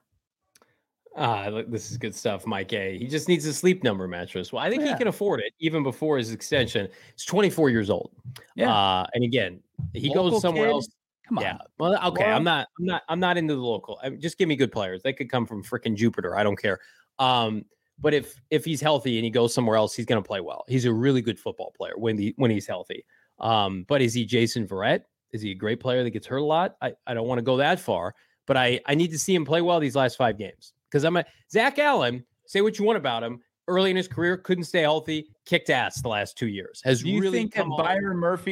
Look, this is good stuff, Mike A. He just needs a Sleep Number mattress. Well, I think he can afford it even before his extension. He's 24 years old. Yeah. And again, he goes somewhere else. Come on. Yeah. Well, okay. I'm not into the local. Just give me good players. They could come from freaking Jupiter. I don't care. But if he's healthy and he goes somewhere else, he's going to play well. He's a really good football player when he's healthy. But is he Jason Verrett? Is he a great player that gets hurt a lot? I don't want to go that far, but I need to see him play well these last 5 games. Because Zach Allen, say what you want about him, early in his career, couldn't stay healthy, kicked ass the last 2 years. Do you think Byron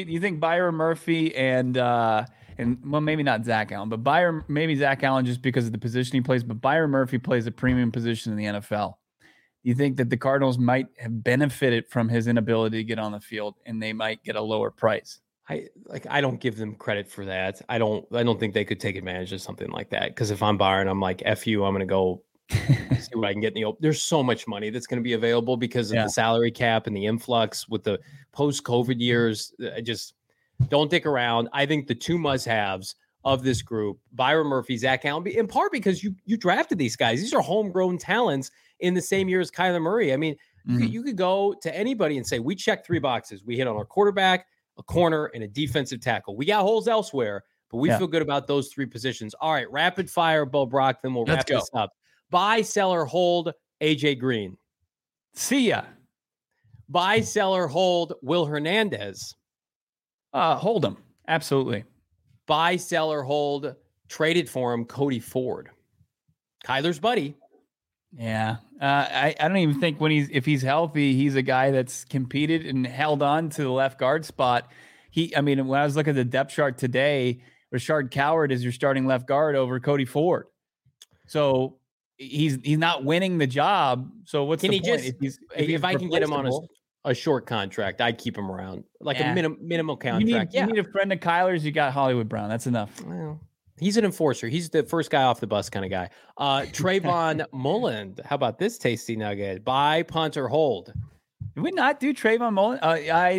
Murphy and well, maybe not Zach Allen, but maybe Zach Allen just because of the position he plays, but Byron Murphy plays a premium position in the NFL. Do you think that the Cardinals might have benefited from his inability to get on the field and they might get a lower price? I don't give them credit for that. I don't think they could take advantage of something like that. Because if I'm Byron, I'm like, F you, I'm going to go see what I can get in the open. There's so much money that's going to be available because of the salary cap and the influx with the post-COVID years. I just don't dick around. I think the 2 must-haves of this group, Byron Murphy, Zach Allen, in part because you drafted these guys. These are homegrown talents in the same year as Kyler Murray. I mean, you could go to anybody and say, we checked 3 boxes. We hit on our quarterback, a corner, and a defensive tackle. We got holes elsewhere, but we feel good about those 3 positions. All right, rapid fire, Bo Brock, then we'll wrap this up. Buy, sell, or hold AJ Green. See ya. Buy, sell, or hold Will Hernandez. Hold him. Absolutely. Buy, sell, or hold, traded for him, Cody Ford. Kyler's buddy. Yeah. I don't even think if he's healthy, he's a guy that's competed and held on to the left guard spot. When I was looking at the depth chart today, Rashard Coward is your starting left guard over Cody Ford. So he's not winning the job. So what's the point? If I can get him on a short contract, I'd keep him around, like a minimal contract. You need a friend of Kyler's. You got Hollywood Brown. That's enough. Well, he's an enforcer. He's the first guy off the bus kind of guy. Trayvon Mullen. How about this tasty nugget? Buy, punt, or hold? Did we not do Trayvon Mullen? I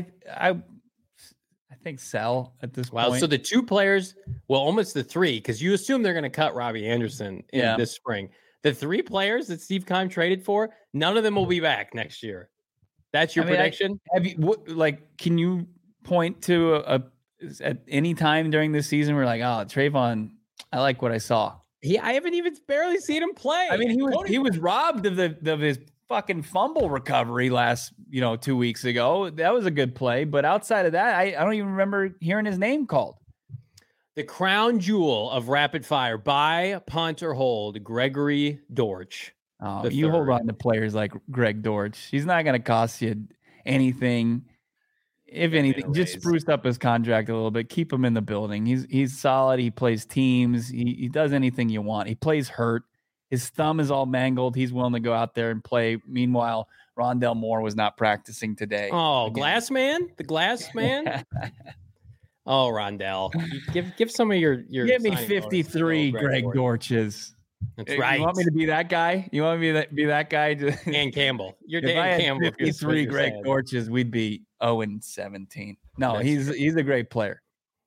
think sell at this point. Well, so the 2 players, almost the 3, because you assume they're going to cut Robbie Anderson in this spring. The 3 players that Steve Keim traded for, none of them will be back next year. That's your prediction? Can you point to at any time during this season we're like, oh, Trayvon, I like what I saw. I haven't even barely seen him play. I mean, he was robbed of his fucking fumble recovery last 2 weeks ago. That was a good play, but outside of that, I don't even remember hearing his name called. The crown jewel of rapid fire: buy, punt, or hold Gregory Dortch. Oh, you hold on to players like Greg Dortch. He's not going to cost you anything. If anything, just spruce up his contract a little bit. Keep him in the building. He's solid. He plays teams. He does anything you want. He plays hurt. His thumb is all mangled. He's willing to go out there and play. Meanwhile, Rondell Moore was not practicing today. Oh, Glass Man? The Glass Man? Oh, Rondell. Give some of your give me 53 Greg Dortches. That's right. You want me to be that guy? You want me to be that guy? Dan Campbell. You're Dan Campbell. 53 Greg Dortches, we'd be 0-17. No, he's a great player.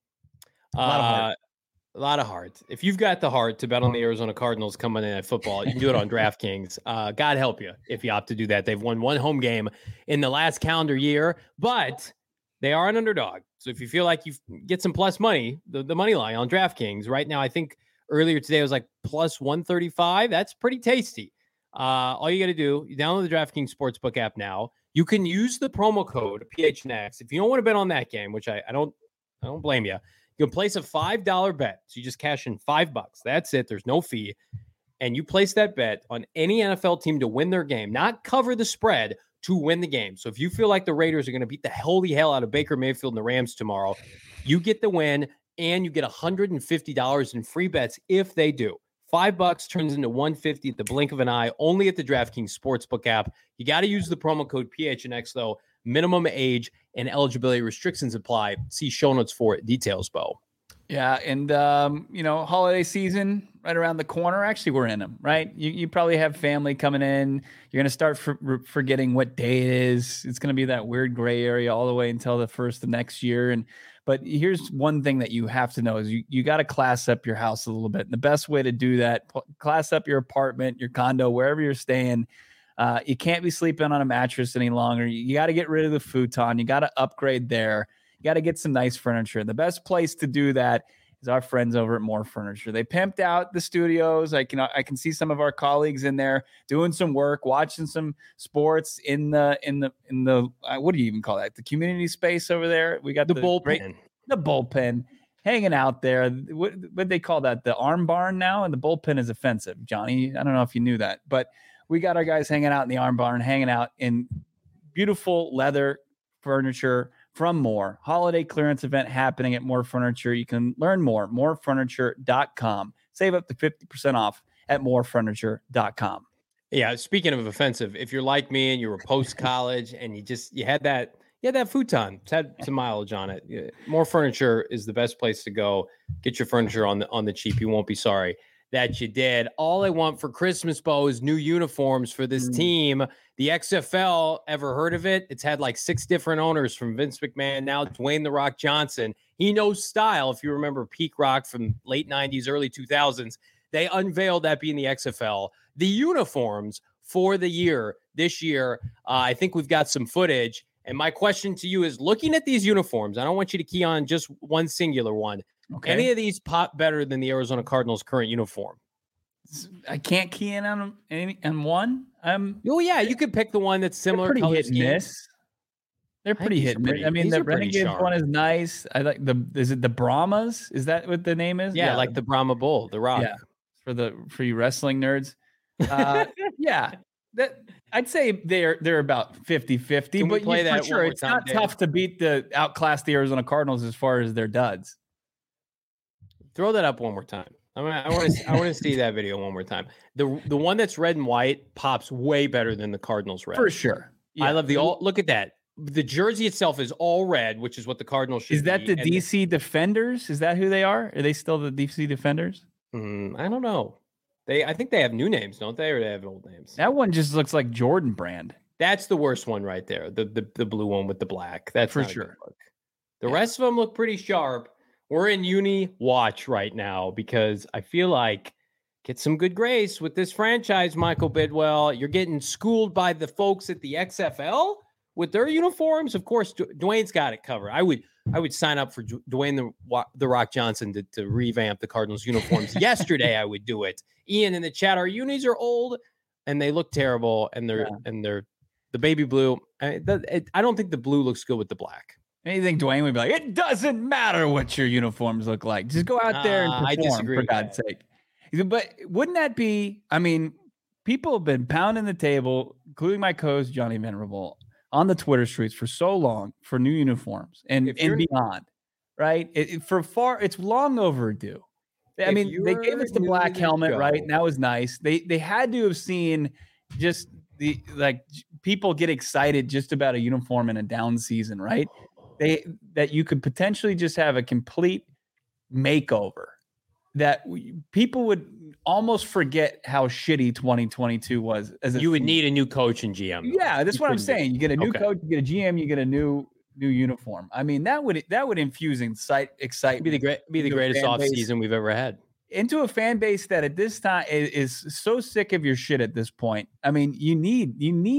A lot of heart. If you've got the heart to bet on the Arizona Cardinals coming in at football, you can do it on DraftKings. God help you if you opt to do that. They've won 1 home game in the last calendar year, but they are an underdog. So if you feel like you get some plus money, the money line on DraftKings right now, I think earlier today it was like plus 135. That's pretty tasty. All you got to do, you download the DraftKings Sportsbook app now. You can use the promo code PHNX if you don't want to bet on that game, which I don't blame you. You can place a $5 bet. So you just cash in $5. That's it. There's no fee. And you place that bet on any NFL team to win their game, not cover the spread, to win the game. So if you feel like the Raiders are going to beat the holy hell out of Baker Mayfield and the Rams tomorrow, you get the win and you get $150 in free bets if they do. $5 turns into $150 at the blink of an eye, only at the DraftKings Sportsbook app. You got to use the promo code PHNX, though. Minimum age and eligibility restrictions apply. See show notes for it. Details, Bo. Yeah, and, holiday season right around the corner. Actually, we're in them, right? You probably have family coming in. You're going to start forgetting what day it is. It's going to be that weird gray area all the way until the first of next year. But here's one thing that you have to know is you got to class up your house a little bit. And the best way to do that, class up your apartment, your condo, wherever you're staying. You can't be sleeping on a mattress any longer. You got to get rid of the futon. You got to upgrade there. You got to get some nice furniture. The best place to do that is our friends over at More Furniture. They pimped out the studios. I can see some of our colleagues in there doing some work, watching some sports in the what do you even call that? The community space over there. We got the bullpen. The bullpen hanging out there. What they call that? The arm barn now, and the bullpen is offensive. Johnny, I don't know if you knew that, but we got our guys hanging out in the arm barn, hanging out in beautiful leather furniture from More. Holiday clearance event happening at More Furniture. You can learn more, morefurniture.com. Save up to 50% off at morefurniture.com. Yeah, speaking of offensive, if you're like me and you were post-college and you had that futon, it's had some mileage on it. More Furniture is the best place to go. Get your furniture on the cheap. You won't be sorry that you did. All I want for Christmas, Bo, is new uniforms for this team. The XFL, ever heard of it? It's had like 6 different owners, from Vince McMahon, now Dwayne "The Rock" Johnson. He knows style. If you remember Peak Rock from late 90s, early 2000s, they unveiled that being the XFL. The uniforms for the year, this year, I think we've got some footage. And my question to you is, looking at these uniforms, I don't want you to key on just one singular one. Okay. Any of these pop better than the Arizona Cardinals' current uniform? I can't key in on one. Oh yeah, you could pick the one that's similar. They're pretty hit and miss. They're pretty hit and miss. I mean, the Renegades one is nice. I like is it the Brahmas? Is that what the name is? Yeah, like the Brahma Bull, the Rock. Yeah, for you wrestling nerds. Yeah, that I'd say they're about 50-50. But for sure, it's not tough to outclass the Arizona Cardinals as far as their duds. Throw that up one more time. I want to see that video one more time. The one that's red and white pops way better than the Cardinals red. For sure. Yeah. I love look at that. The jersey itself is all red, which is what the Cardinals should be. Is that the DC Defenders? Is that who they are? Are they still the DC Defenders? I don't know. I think they have new names, don't they? Or they have old names? That one just looks like Jordan Brand. That's the worst one right there. The blue one with the black. That's for sure. The rest of them look pretty sharp. We're in uni watch right now because I feel like get some good grace with this franchise, Michael Bidwell. You're getting schooled by the folks at the XFL with their uniforms. Of course, Dwayne's got it covered. I would sign up for Dwayne the Rock Johnson to revamp the Cardinals uniforms. Yesterday, I would do it. Ian in the chat, our unis are old and they look terrible, and they're the baby blue. I don't think the blue looks good with the black. You think Dwayne would be like, it doesn't matter what your uniforms look like. Just go out there and perform, I disagree for God's sake. But wouldn't that be, I mean, people have been pounding the table, including my co-host, Johnny Venerable, on the Twitter streets for so long for new uniforms and beyond, right? It's long overdue. I mean, they gave us the black helmet, right? And that was nice. They had to have seen just people get excited just about a uniform in a down season, right? That you could potentially just have a complete makeover, that people would almost forget how shitty 2022 was. You would need a new coach and GM. Yeah, that's what I'm saying. You get a new coach, you get a GM, you get a new uniform. I mean, that would infuse excitement. Be the greatest offseason we've ever had. Into a fan base that at this time is so sick of your shit at this point. I mean, you need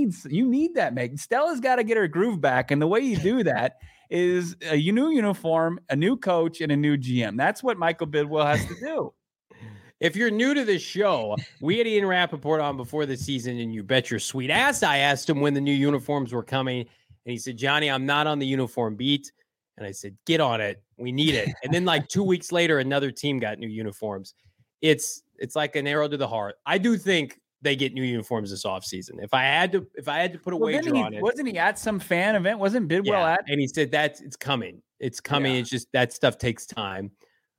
that, Meg. Stella's got to get her groove back, and the way you do that is a new uniform, a new coach, and a new GM. That's what Michael Bidwell has to do. If you're new to this show, we had Ian Rappaport on before the season, and you bet your sweet ass I asked him when the new uniforms were coming, and he said, Johnny, I'm not on the uniform beat. And I said, get on it. We need it. And then like 2 weeks later, another team got new uniforms. It's like an arrow to the heart. I do think they get new uniforms this offseason. If I had to put a wager on it. Wasn't he at some fan event? Wasn't Bidwell at? And he said it's coming. It's coming. Yeah. It's just that stuff takes time.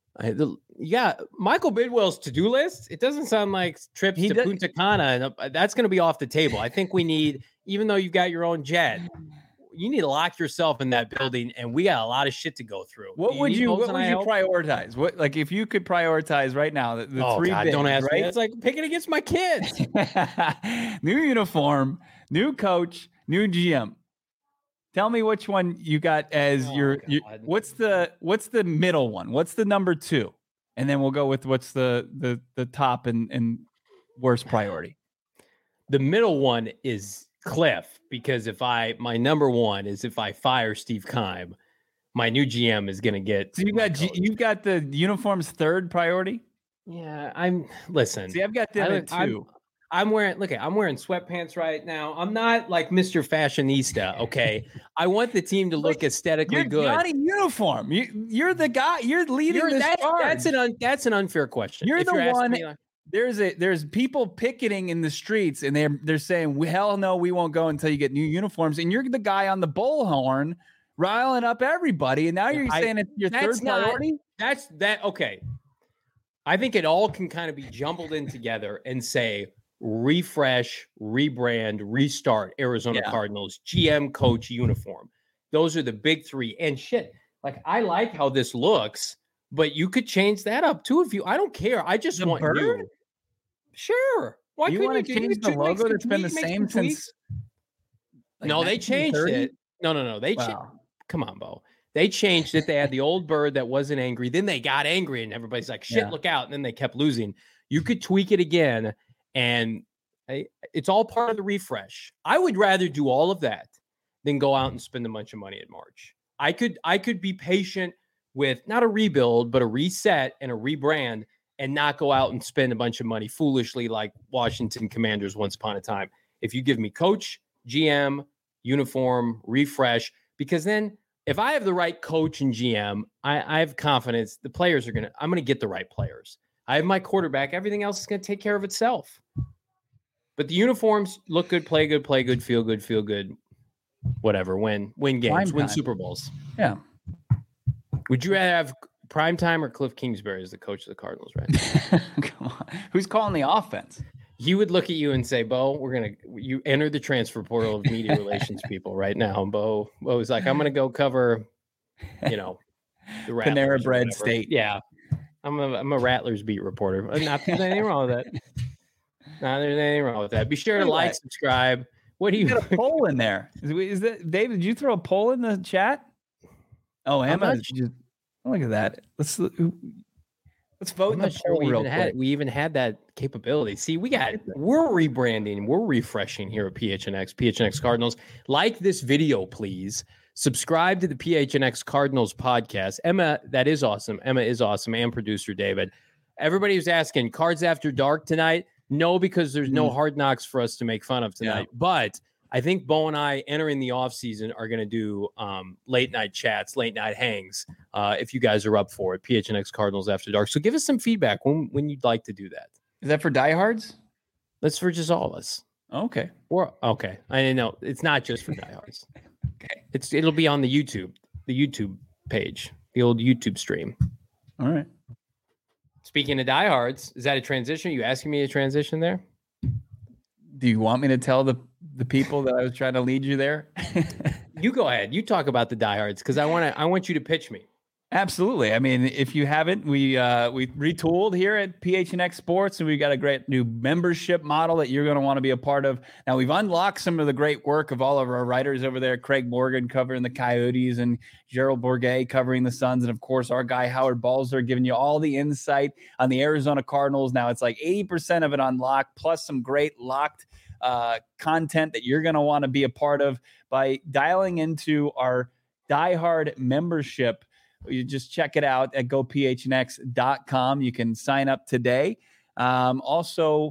Michael Bidwell's to-do list. It doesn't sound like trips to Punta Cana. And that's going to be off the table. I think we need, even though you've got your own jet, you need to lock yourself in that building, and we got a lot of shit to go through. What would you prioritize? What, like, if you could prioritize right now, the three God, bigs, don't ask right? me. It's like picking against my kids. New uniform, new coach, new GM. Tell me which one you got as your what's the middle one? What's the number 2? And then we'll go with what's the top and worst priority. The middle one is Cliff, because my number 1 is if I fire Steve Keim, my new GM is going to get. So you've got the uniforms third priority. Yeah, listen. See, I've got them at 2. I'm wearing sweatpants right now. I'm not like Mr. Fashionista, okay? I want the team to look aesthetically good. You're not a uniform. You're the guy. You're leading this charge. That's an unfair question. You're the one. There's people picketing in the streets, and they're saying, hell no, we won't go until you get new uniforms. And you're the guy on the bullhorn riling up everybody. And now you're saying it's your third priority? Okay. I think it all can kind of be jumbled in together and say, refresh, rebrand, restart Arizona Cardinals, GM, coach, uniform. Those are the big 3. And shit, like, I like how this looks, but you could change that up too if you. I don't care. I just want bird? you. Sure. Why you want to change the logo that's been the same since? No, they changed it. No. They changed. Come on, Bo. They changed it. They had the old bird that wasn't angry. Then they got angry, and everybody's like, "Shit, look out!" And then they kept losing. You could tweak it again, and it's all part of the refresh. I would rather do all of that than go out and spend a bunch of money in March. I could be patient with not a rebuild, but a reset and a rebrand, and not go out and spend a bunch of money foolishly like Washington Commanders once upon a time. If you give me coach, GM, uniform, refresh, because then if I have the right coach and GM, I have confidence the players I'm going to get the right players. I have my quarterback. Everything else is going to take care of itself. But the uniforms look good, play good, feel good, whatever. Win games, win Super Bowls. Yeah. Would you rather have Primetime or Cliff Kingsbury as the coach of the Cardinals, right? Come on. Who's calling the offense? He would look at you and say, Bo, you enter the transfer portal of media relations people right now. And Bo was like, I'm going to go cover, the Panera Bread State. Yeah. I'm a Rattlers beat reporter. Not there's anything wrong with that. There's anything wrong with that. Be sure to like, subscribe. What do you got a poll in there? Is that David? Did you throw a poll in the chat? Oh, Emma, look at that. Let's vote in the poll real quick. We even had that capability. See, we're rebranding, we're refreshing here at PHNX Cardinals. Like this video, please. Subscribe to the PHNX Cardinals podcast. Emma, that is awesome. Emma is awesome, and producer David. Everybody was asking, Cards After Dark tonight? No, because there's no Hard Knocks for us to make fun of tonight. Yeah. But I think Bo and I, entering the offseason, are going to do late night chats, late night hangs, if you guys are up for it. PHNX Cardinals After Dark. So give us some feedback when you'd like to do that. Is that for diehards? That's for just all of us. Okay. Okay. I didn't know. It's not just for diehards. Okay. It'll be on the YouTube page, the old YouTube stream. All right. Speaking of diehards, is that a transition? Are you asking me a transition there? Do you want me to tell the people that I was trying to lead you there? You go ahead. You talk about the diehards because I want you to pitch me. Absolutely. I mean, if you haven't, we retooled here at PHNX Sports, and we've got a great new membership model that you're going to want to be a part of. Now, we've unlocked some of the great work of all of our writers over there. Craig Morgan covering the Coyotes, and Gerald Bourguet covering the Suns, and of course, our guy Howard Balzer giving you all the insight on the Arizona Cardinals. Now, it's like 80% of it unlocked, plus some great locked content that you're going to want to be a part of by dialing into our diehard membership. You just check it out at gophnx.com. You can sign up today. Also,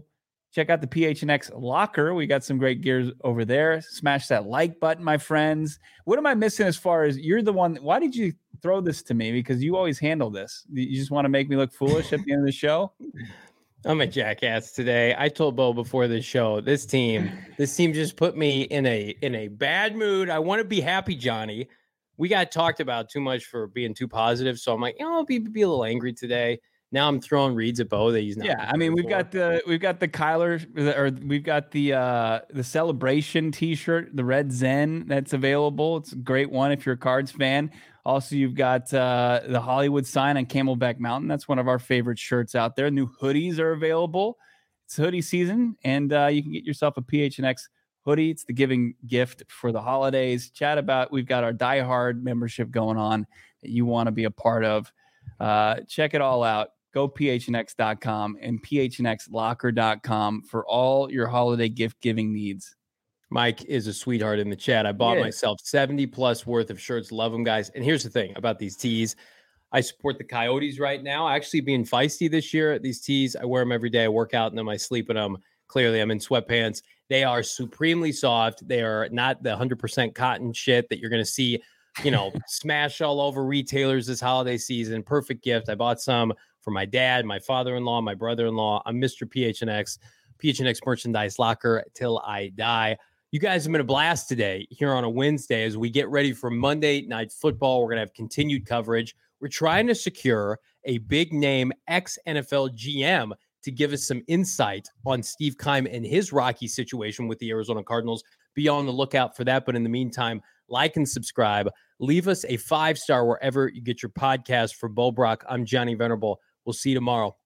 Check out the PHNX locker. We got some great gears over there. Smash that like button, my friends. What am I missing as far as you're the one? Why did you throw this to me? Because you always handle this. You just want to make me look foolish at the end of the show? I'm a jackass today. I told Bo before the show, this team just put me in a bad mood. I want to be happy, Johnny. We got talked about too much for being too positive. So I'm like, I'll be a little angry today. Now I'm throwing reads at Bo that he's not. Yeah, I mean, we've got the Kyler, or we've got the Celebration T-shirt, the Red Zen that's available. It's a great one if you're a Cards fan. Also, you've got the Hollywood sign on Camelback Mountain. That's one of our favorite shirts out there. New hoodies are available. It's hoodie season, and you can get yourself a PHNX hoodie. It's the giving gift for the holidays. We've got our Die Hard membership going on that you want to be a part of. Check it all out. Go phnx.com and phnxlocker.com for all your holiday gift giving needs. Mike is a sweetheart in the chat. I bought myself 70 plus worth of shirts. Love them, guys. And here's the thing about these tees. I support the Coyotes right now. Actually being feisty this year. These tees, I wear them every day. I work out in them. I sleep in them. Clearly, I'm in sweatpants. They are supremely soft. They are not the 100% cotton shit that you're going to see, smash all over retailers this holiday season. Perfect gift. I bought some for my dad, my father-in-law, my brother-in-law. I'm Mr. PHNX merchandise locker till I die. You guys have been a blast today here on a Wednesday as we get ready for Monday Night Football. We're going to have continued coverage. We're trying to secure a big name ex-NFL GM to give us some insight on Steve Keim and his rocky situation with the Arizona Cardinals. Be on the lookout for that. But in the meantime, like and subscribe. Leave us a 5-star wherever you get your podcast. For Bo Brock, I'm Johnny Venerable. We'll see you tomorrow.